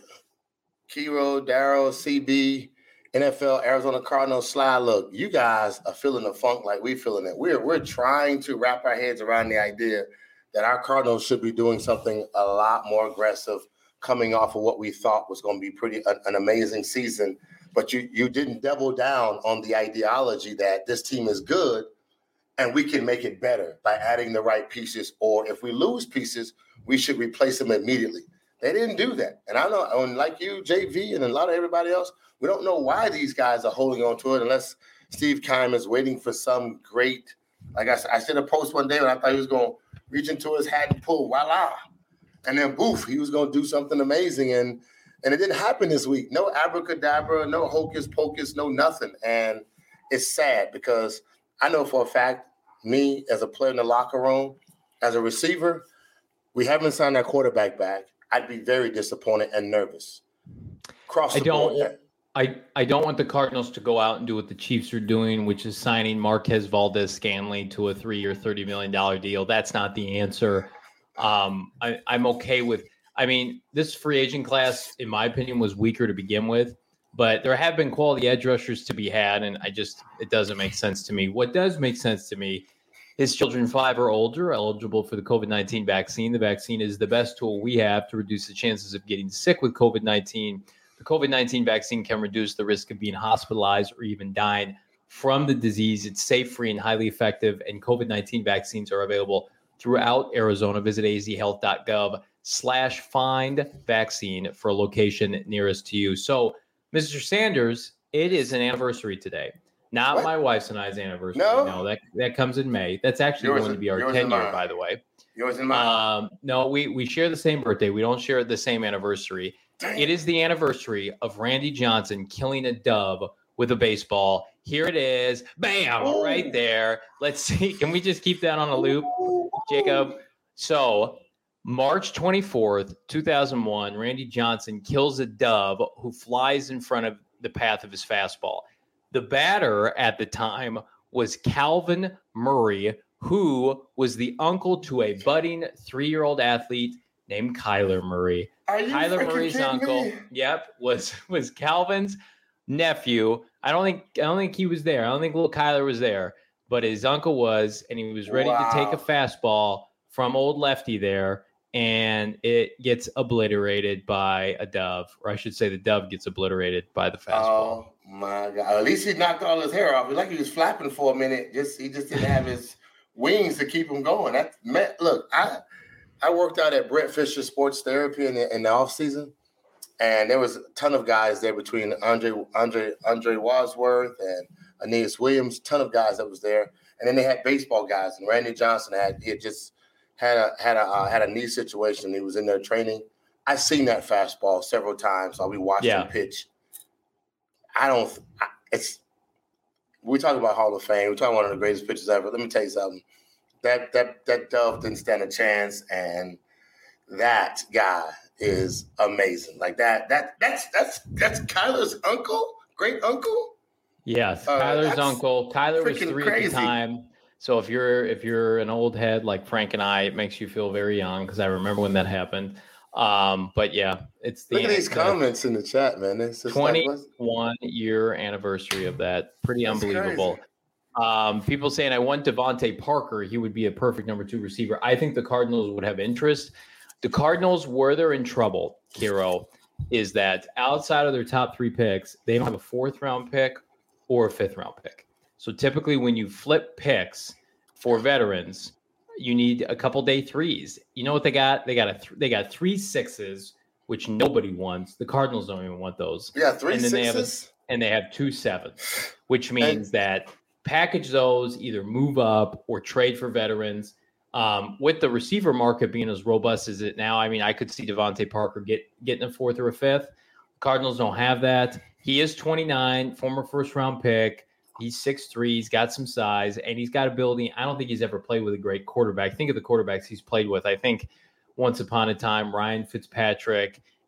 Kiro, Darryl, C B, N F L, Arizona Cardinals, Sly. Look, you guys are feeling the funk like we're feeling it. We're we're trying to wrap our heads around the idea that our Cardinals should be doing something a lot more aggressive, coming off of what we thought was going to be pretty an, an amazing season. But you you didn't double down on the ideology that this team is good and we can make it better by adding the right pieces. Or if we lose pieces, we should replace them immediately. They didn't do that. And I know, and like you, J V, and a lot of everybody else, we don't know why these guys are holding on to it unless Steve Keim is waiting for some great, like I said, I did a post one day when I thought he was going to reach into his hat and pull, voila. And then, boof, he was going to do something amazing. And and it didn't happen this week. No abracadabra, no hocus pocus, no nothing. And it's sad because I know for a fact, me as a player in the locker room, as a receiver, we haven't signed our quarterback back. I'd be very disappointed and nervous. Cross the I don't, board. I, I don't want the Cardinals to go out and do what the Chiefs are doing, which is signing Marquez Valdez-Scantling to a three-year, thirty million dollars deal. That's not the answer. Um, I, I'm okay with – I mean, this free agent class, in my opinion, was weaker to begin with, but there have been quality edge rushers to be had, and I just – it doesn't make sense to me. What does make sense to me is children five or older are eligible for the COVID nineteen vaccine. The vaccine is the best tool we have to reduce the chances of getting sick with COVID nineteen. The COVID nineteen vaccine can reduce the risk of being hospitalized or even dying from the disease. It's safe, free, and highly effective, and COVID nineteen vaccines are available throughout Arizona. Visit azhealth.gov slash find vaccine for a location nearest to you. So, Mister Sanders, it is an anniversary today. Not what? My wife's and I's anniversary. No, no that, that comes in May. That's actually yours going to be our ten year, by the way. Yours and mine. Um, no, we, we share the same birthday. We don't share the same anniversary. Dang. It is the anniversary of Randy Johnson killing a dove with a baseball. Here it is. Bam! Ooh. Right there. Let's see. Can we just keep that on a loop, Jacob? So, March twenty-fourth, two thousand one, Randy Johnson kills a dove who flies in front of the path of his fastball. The batter at the time was Calvin Murray, who was the uncle to a budding three-year-old athlete named Kyler Murray. Are you Kyler Murray's uncle, me? yep, was was Calvin's nephew. I don't think I don't think he was there. I don't think little Kyler was there, but his uncle was, and he was ready wow. to take a fastball from old lefty there, and it gets obliterated by a dove, or I should say the dove gets obliterated by the fastball. Oh my God. At least he knocked all his hair off. It was like he was flapping for a minute. Just he just didn't have his wings to keep him going. That meant, look, I I worked out at Brett Fisher Sports Therapy in the, in the offseason, and there was a ton of guys there between Andre Andre Andre Wadsworth and Aeneas Williams, ton of guys that was there. And then they had baseball guys, and Randy Johnson had he had just had a had a uh, had a knee situation. He was in there training. I've seen that fastball several times. So we watched yeah. him pitch. I don't. It's we talk about Hall of Fame. We talk about one of the greatest pitchers ever. Let me tell you something. That that that dove didn't stand a chance, and that guy is amazing. Like that. That that's that's that's Kyler's uncle, great uncle. Yes, uh, Kyler's uncle. Kyler was three crazy. At the time. So if you're if you're an old head like Frank and I, it makes you feel very young because I remember when that happened. Um, but yeah, it's the look at these the comments in the chat, man. It's twenty-one like, year anniversary of that. Pretty That's unbelievable. Um, people saying I want Devontae Parker. He would be a perfect number two receiver. I think the Cardinals would have interest. The Cardinals, where they're in trouble, Kiro, is that outside of their top three picks, they don't have a fourth round pick or a fifth round pick. So typically when you flip picks for veterans, you need a couple day threes. You know what they got? They got a th- they got three sixes, which nobody wants. The Cardinals don't even want those. Yeah, three and then sixes. They have a, and they have two sevens, which means and- that package those, either move up or trade for veterans. Um, with the receiver market being as robust as it now, I mean, I could see Devontae Parker get getting a fourth or a fifth. The Cardinals don't have that. He is twenty-nine, former first round pick. He's six three, he's got some size, and he's got ability. I don't think he's ever played with a great quarterback. Think of the quarterbacks he's played with. I think once upon a time, Ryan Fitzpatrick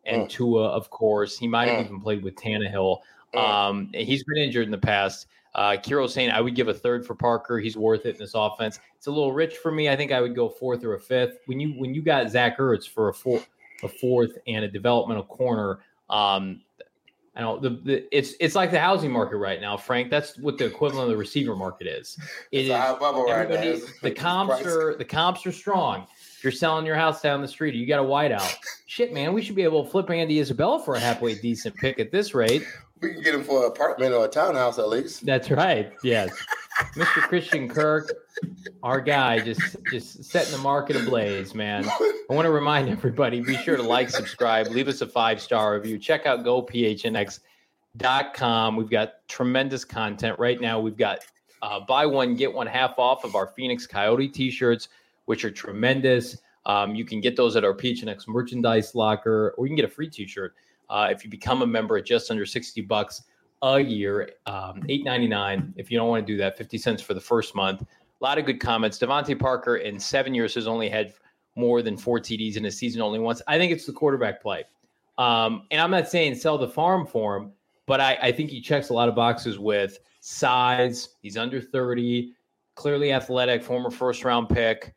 and mm. Tua, of course. He might have mm. even played with Tannehill. Mm. Um, he's been injured in the past. Uh, Kiro's saying I would give a third for Parker. He's worth it in this offense. It's a little rich for me. I think I would go fourth or a fifth. When you when you got Zach Ertz for a four, a fourth and a developmental corner, um, I don't. The, the it's it's like the housing market right now, Frank. That's what the equivalent of the receiver market is. It It's is a high bubble right now. everybody. The comps are the comps are strong. If you're selling your house down the street, you got a whiteout. Shit, man, we should be able to flip Andy Isabella for a halfway decent pick at this rate. We can get him for an apartment or a townhouse at least. That's right. Yes. Mister Christian Kirk, our guy, just just setting the market ablaze, man. I want to remind everybody, be sure to like, subscribe, leave us a five-star review. Check out go p h n x dot com. We've got tremendous content. Right now, we've got uh, buy one, get one half off of our Phoenix Coyote t-shirts, which are tremendous. Um, you can get those at our P H N X merchandise locker, or you can get a free t-shirt uh, if you become a member at just under sixty bucks a year, um, eight ninety-nine. If you don't want to do that, fifty cents for the first month. A lot of good comments. Devontae Parker in seven years has only had more than four T Ds in a season only once. I think it's the quarterback play. Um, and I'm not saying sell the farm for him, but I, I think he checks a lot of boxes with size. He's under thirty, clearly athletic, former first round pick.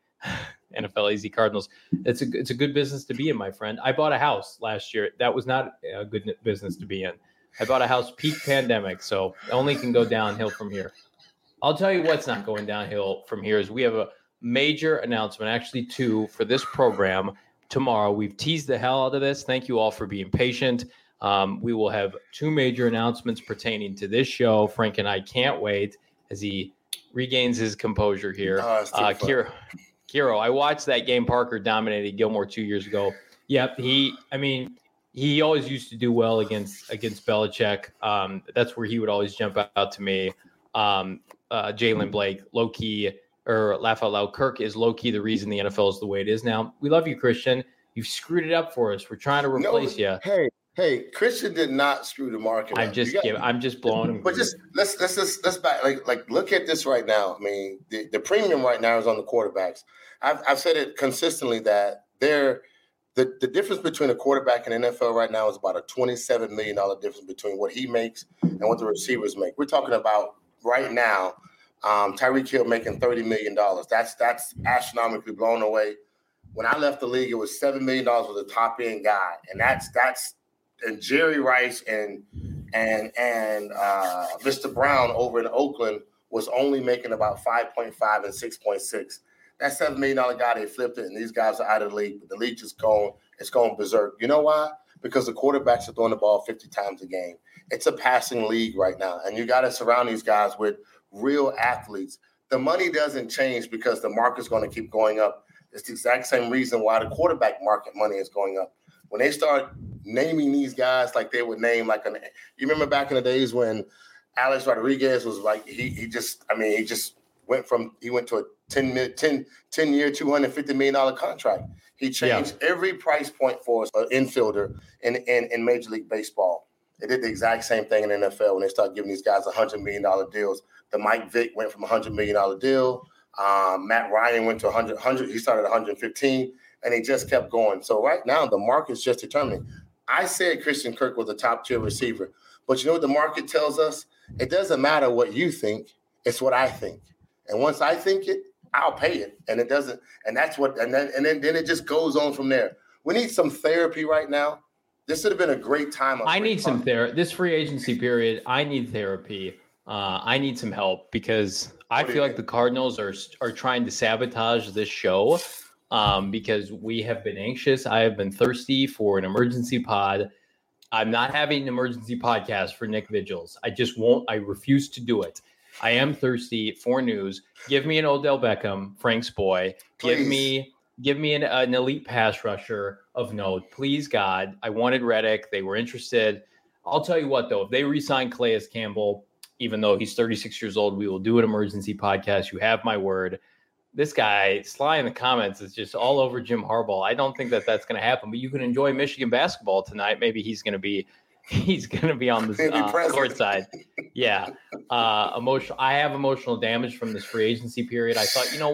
N F L A Z Cardinals. It's a it's a good business to be in, my friend. I bought a house last year. That was not a good business to be in. I bought a house peak pandemic, so only can go downhill from here. I'll tell you what's not going downhill from here is we have a major announcement, actually two, for this program tomorrow. We've teased the hell out of this. Thank you all for being patient. Um, we will have two major announcements pertaining to this show. Frank and I can't wait as he regains his composure here. Oh, uh, Kira. Kiro, I watched that game. Parker dominated Gilmore two years ago. Yep, he. I mean, he always used to do well against against Belichick. Um, that's where he would always jump out to me. Um, uh, Jalen Blake, low key, or laugh out loud. Kirk is low key the reason the N F L is the way it is now. We love you, Christian. You've screwed it up for us. We're trying to replace no, you. Hey, hey, Christian did not screw the market. I'm just got, giving. I'm just blowing him. But just let's let's let's let's back like like look at this right now. I mean, the, the premium right now is on the quarterbacks. I've I've said it consistently that they're the, the difference between a quarterback and N F L right now is about a twenty-seven million dollars difference between what he makes and what the receivers make. We're talking about right now, um, Tyreek Hill making thirty million dollars. That's that's astronomically blown away. When I left the league, it was seven million dollars was a top end guy. And that's that's and Jerry Rice and and and uh, Mister Brown over in Oakland was only making about five point five and six point six. That seven million dollars guy, they flipped it, and these guys are out of the league. But the league just going, it's going berserk. You know why? Because the quarterbacks are throwing the ball fifty times a game. It's a passing league right now, and you got to surround these guys with real athletes. The money doesn't change because the market's going to keep going up. It's the exact same reason why the quarterback market money is going up. When they start naming these guys like they would name like an – you remember back in the days when Alex Rodriguez was like – he he just – I mean, he just went from – he went to a ten, ten, ten year, two hundred fifty million dollars contract. He changed yeah. every price point for an infielder in, in, in Major League Baseball. They did the exact same thing in the N F L when they started giving these guys one hundred million dollars deals. The Mike Vick went from a one hundred million dollars deal. Um, Matt Ryan went to one hundred, one hundred. He started at one hundred fifteen, and he just kept going. So right now, the market's just determining. I said Christian Kirk was a top-tier receiver. But you know what the market tells us? It doesn't matter what you think. It's what I think. And once I think it, I'll pay it. And it doesn't – and that's what – and then and then, then it just goes on from there. We need some therapy right now. This would have been a great time. I need some therapy. This free agency period, I need therapy. Uh, I need some help because I feel like the Cardinals are are trying to sabotage this show um, because we have been anxious. I have been thirsty for an emergency pod. I'm not having an emergency podcast for Nick Vigils. I just won't. I refuse to do it. I am thirsty for news. Give me an Odell Beckham, Frank's boy. Please. Give me give me an, an elite pass rusher of note. Please, God. I wanted Reddick. They were interested. I'll tell you what, though. If they re-sign Calais Campbell, even though he's thirty-six years old, we will do an emergency podcast. You have my word. This guy, Sly in the comments, is just all over Jim Harbaugh. I don't think that that's going to happen, but you can enjoy Michigan basketball tonight. Maybe he's going to be he's going to be on the uh, court side. Yeah. Uh, emotional. I have emotional damage from this free agency period. I thought, you know what?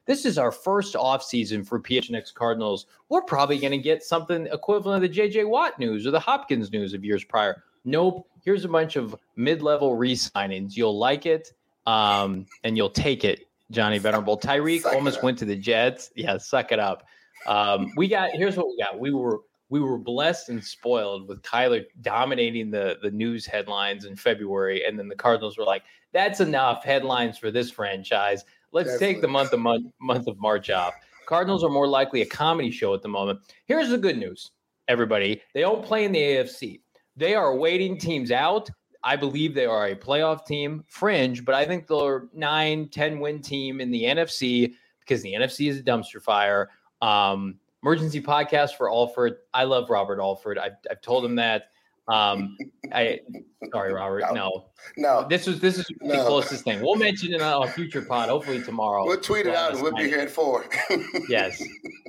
This is our first offseason for P H N X Cardinals. We're probably going to get something equivalent of the J J Watt news or the Hopkins news of years prior. Nope. Here's a bunch of mid-level re-signings. You'll like it, um, and you'll take it, Johnny Venerable. Tyreek almost went to the Jets. Yeah, suck it up. Um, we got here's what we got. We were we were blessed and spoiled with Kyler dominating the the news headlines in February, and then the Cardinals were like, "That's enough headlines for this franchise. Let's Definitely. take the month of month month of March off." Cardinals are more likely a comedy show at the moment. Here's the good news, everybody. They don't play in the A F C. They are waiting teams out. I believe they are a playoff team, fringe, but I think they're nine, ten win team in the N F C because the N F C is a dumpster fire. Um, emergency podcast for Alford. I love Robert Alford. I've, I've told him that. Um, I sorry, Robert. No, no, this was this is the no. closest thing. We'll mention it on a future pod, hopefully tomorrow. We'll tweet it out and we'll be here at four. Yes.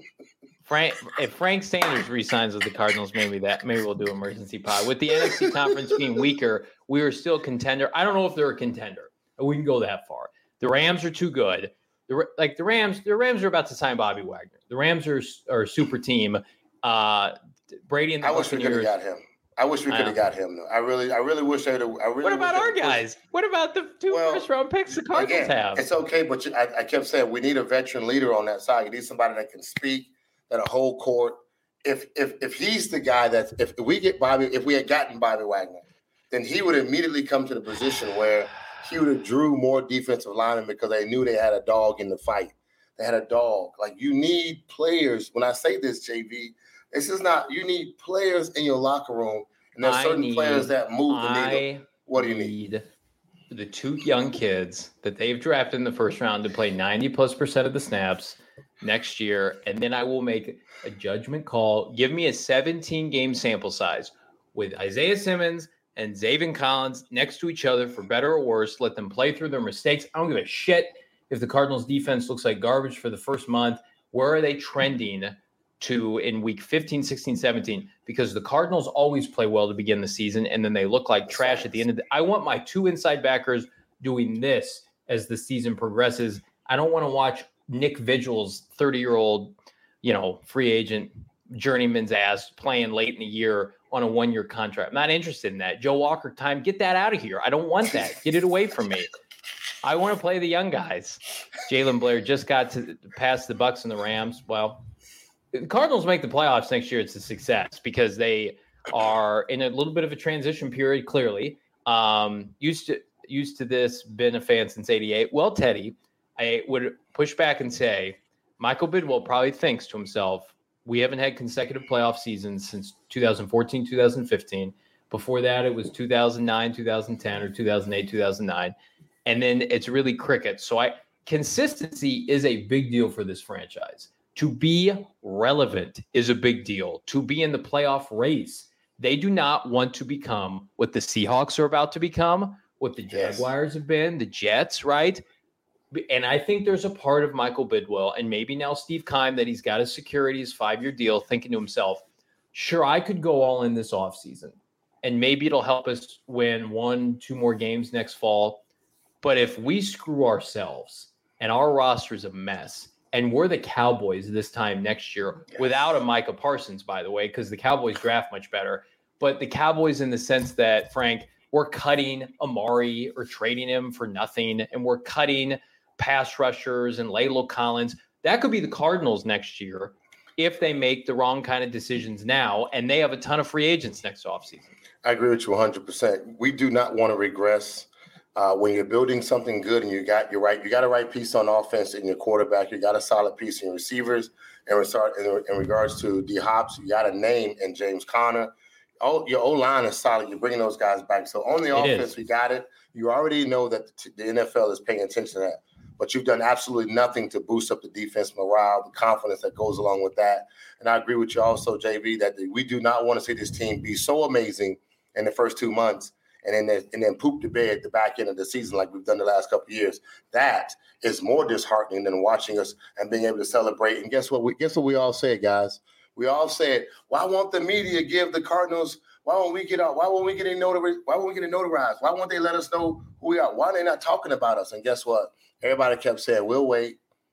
Frank, if Frank Sanders resigns with the Cardinals, maybe that maybe we'll do emergency pod. With the N F C conference being weaker, we are still a contender. I don't know if they're a contender. We can go that far. The Rams are too good. The, like the Rams, the Rams are about to sign Bobby Wagner. The Rams are, are a super team. Uh, Brady and the I wish we could have got him. I wish we could have got him. Though. I really, I really wish they. Really what about our guys? Pushed. What about the two well, first round picks the Cardinals again, have? It's okay, but you, I, I kept saying we need a veteran leader on that side. You need somebody that can speak, that a whole court. If if if he's the guy that if we get Bobby, if we had gotten Bobby Wagner, then he would immediately come to the position where he would have drew more defensive linemen because they knew they had a dog in the fight. They had a dog. Like you need players. When I say this, J V, this is not. You need players in your locker room, and there's certain need, players that move the needle. What do you need? need? The two young kids that they've drafted in the first round to play ninety plus percent of the snaps next year, and then I will make a judgment call. Give me a seventeen game sample size with Isaiah Simmons and Zaven Collins next to each other for better or worse. Let them play through their mistakes. I don't give a shit if the Cardinals defense looks like garbage for the first month. Where are they trending to in week fifteen, sixteen, seventeen? Because the Cardinals always play well to begin the season, and then they look like trash at the end of the I want my two inside backers doing this as the season progresses. I don't want to watch Nick Vigil's thirty-year-old, you know, free agent journeyman's ass playing late in the year on a one-year contract. I'm not interested in that. Joe Walker time, get that out of here. I don't want that. Get it away from me. I want to play the young guys. Jalen Blair just got to pass the Bucs and the Rams. Well, the Cardinals make the playoffs next year. It's a success because they are in a little bit of a transition period, clearly. Um, used to used to this, been a fan since eighty-eight. Well, Teddy, I would push back and say Michael Bidwell probably thinks to himself, we haven't had consecutive playoff seasons since two thousand fourteen, two thousand fifteen. Before that, it was two thousand nine, two thousand ten, or two thousand eight, two thousand nine. And then it's really cricket. So I consistency is a big deal for this franchise. To be relevant is a big deal. To be in the playoff race. They do not want to become what the Seahawks are about to become, what the Jaguars have been, the Jets, right? And I think there's a part of Michael Bidwell and maybe now Steve Keim that he's got his security, his five-year deal, thinking to himself, sure, I could go all in this offseason, and maybe it'll help us win one, two more games next fall. But if we screw ourselves and our roster's a mess, and we're the Cowboys this time next year, yes. without a Micah Parsons, by the way, because the Cowboys draft much better, but the Cowboys in the sense that, Frank, we're cutting Amari or trading him for nothing, and we're cutting pass rushers and Laylo Collins. That could be the Cardinals next year if they make the wrong kind of decisions now, and they have a ton of free agents next offseason. I agree with you one hundred percent. We do not want to regress. Uh, when you're building something good and you got your right, you got a right piece on offense in your quarterback, you got a solid piece in your receivers. And in, in regards to D Hops, you got a name in James Conner. Oh, your O-line is solid. You're bringing those guys back. So on the it offense, is. we got it. You already know that the N F L is paying attention to that. But you've done absolutely nothing to boost up the defense morale, the confidence that goes along with that. And I agree with you also, J V, that we do not want to see this team be so amazing in the first two months and then and then poop the bed at the back end of the season like we've done the last couple of years. That is more disheartening than watching us and being able to celebrate. And guess what? We guess what we all said, guys. We all said, why won't the media give the Cardinals? Why won't we get out? Why won't we get a notar- Why won't we get a notarized? Why won't they let us know who we are? Why are they not talking about us? And guess what? Everybody kept saying, we'll wait.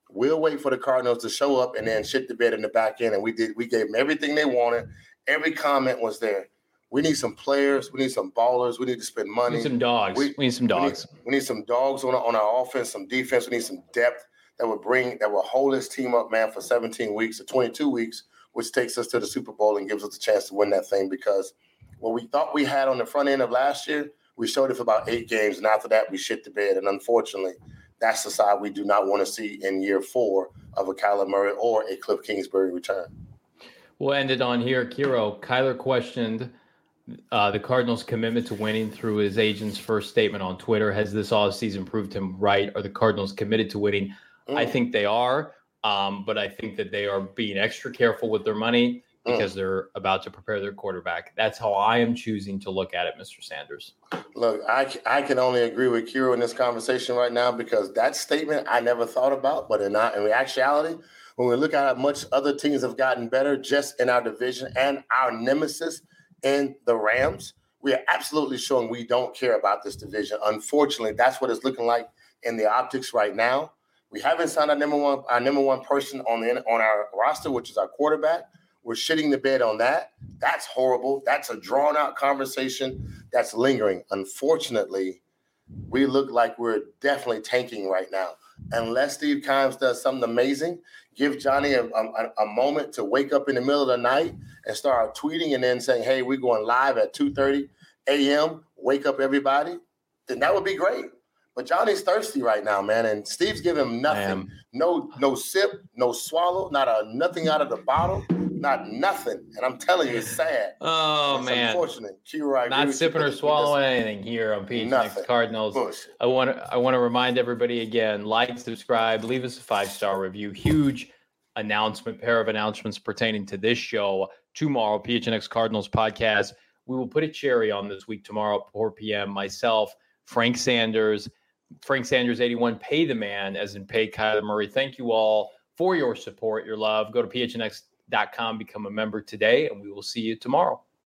We'll wait for the Cardinals to show up and then shit the bed in the back end. And we did. We gave them everything they wanted. Every comment was there. We need some players. We need some ballers. We need to spend money. We need some dogs. We, we need some dogs. We need, we need some dogs on, on our offense, some defense. We need some depth that would bring, that will hold this team up, man, for seventeen weeks or twenty-two weeks, which takes us to the Super Bowl and gives us a chance to win that thing, because what we thought we had on the front end of last year, we showed it for about eight games. And after that, we shit the bed. And unfortunately, that's the side we do not want to see in year four of a Kyler Murray or a Cliff Kingsbury return. We'll end it on here. Kiro, Kyler questioned uh, the Cardinals' commitment to winning through his agent's first statement on Twitter. Has this offseason proved him right? Are the Cardinals committed to winning? Mm. I think they are, um, but I think that they are being extra careful with their money because mm. they're about to prepare their quarterback. That's how I am choosing to look at it, Mister Sanders. Look, I, I can only agree with Kiro in this conversation right now, because that statement I never thought about, but in, not, in actuality, when we look at how much other teams have gotten better just in our division and our nemesis in the Rams, we are absolutely showing we don't care about this division. Unfortunately, that's what it's looking like in the optics right now. We haven't signed our number one our number one person on the on our roster, which is our quarterback. We're shitting the bed on that. That's horrible. That's a drawn-out conversation that's lingering. Unfortunately, we look like we're definitely tanking right now. Unless Steve Keim does something amazing, give Johnny a, a, a moment to wake up in the middle of the night and start tweeting and then saying, hey, we're going live at two thirty a.m., wake up everybody, then that would be great. But Johnny's thirsty right now, man, and Steve's giving him nothing. No no sip, no swallow, not a nothing out of the bottle, not nothing. And I'm telling you, it's sad. Oh, it's man. Unfortunate. Q, not sipping or swallowing anything here on P H N X Cardinals. Bullshit. I want to I want to remind everybody again, like, subscribe, leave us a five-star review. Huge announcement, pair of announcements pertaining to this show tomorrow, P H N X Cardinals podcast. We will put a cherry on this week tomorrow at four p.m. Myself, Frank Sanders, Frank Sanders eighty-one, pay the man, as in pay Kyler Murray. Thank you all for your support, your love. Go to P H N X dot com, become a member today, and we will see you tomorrow.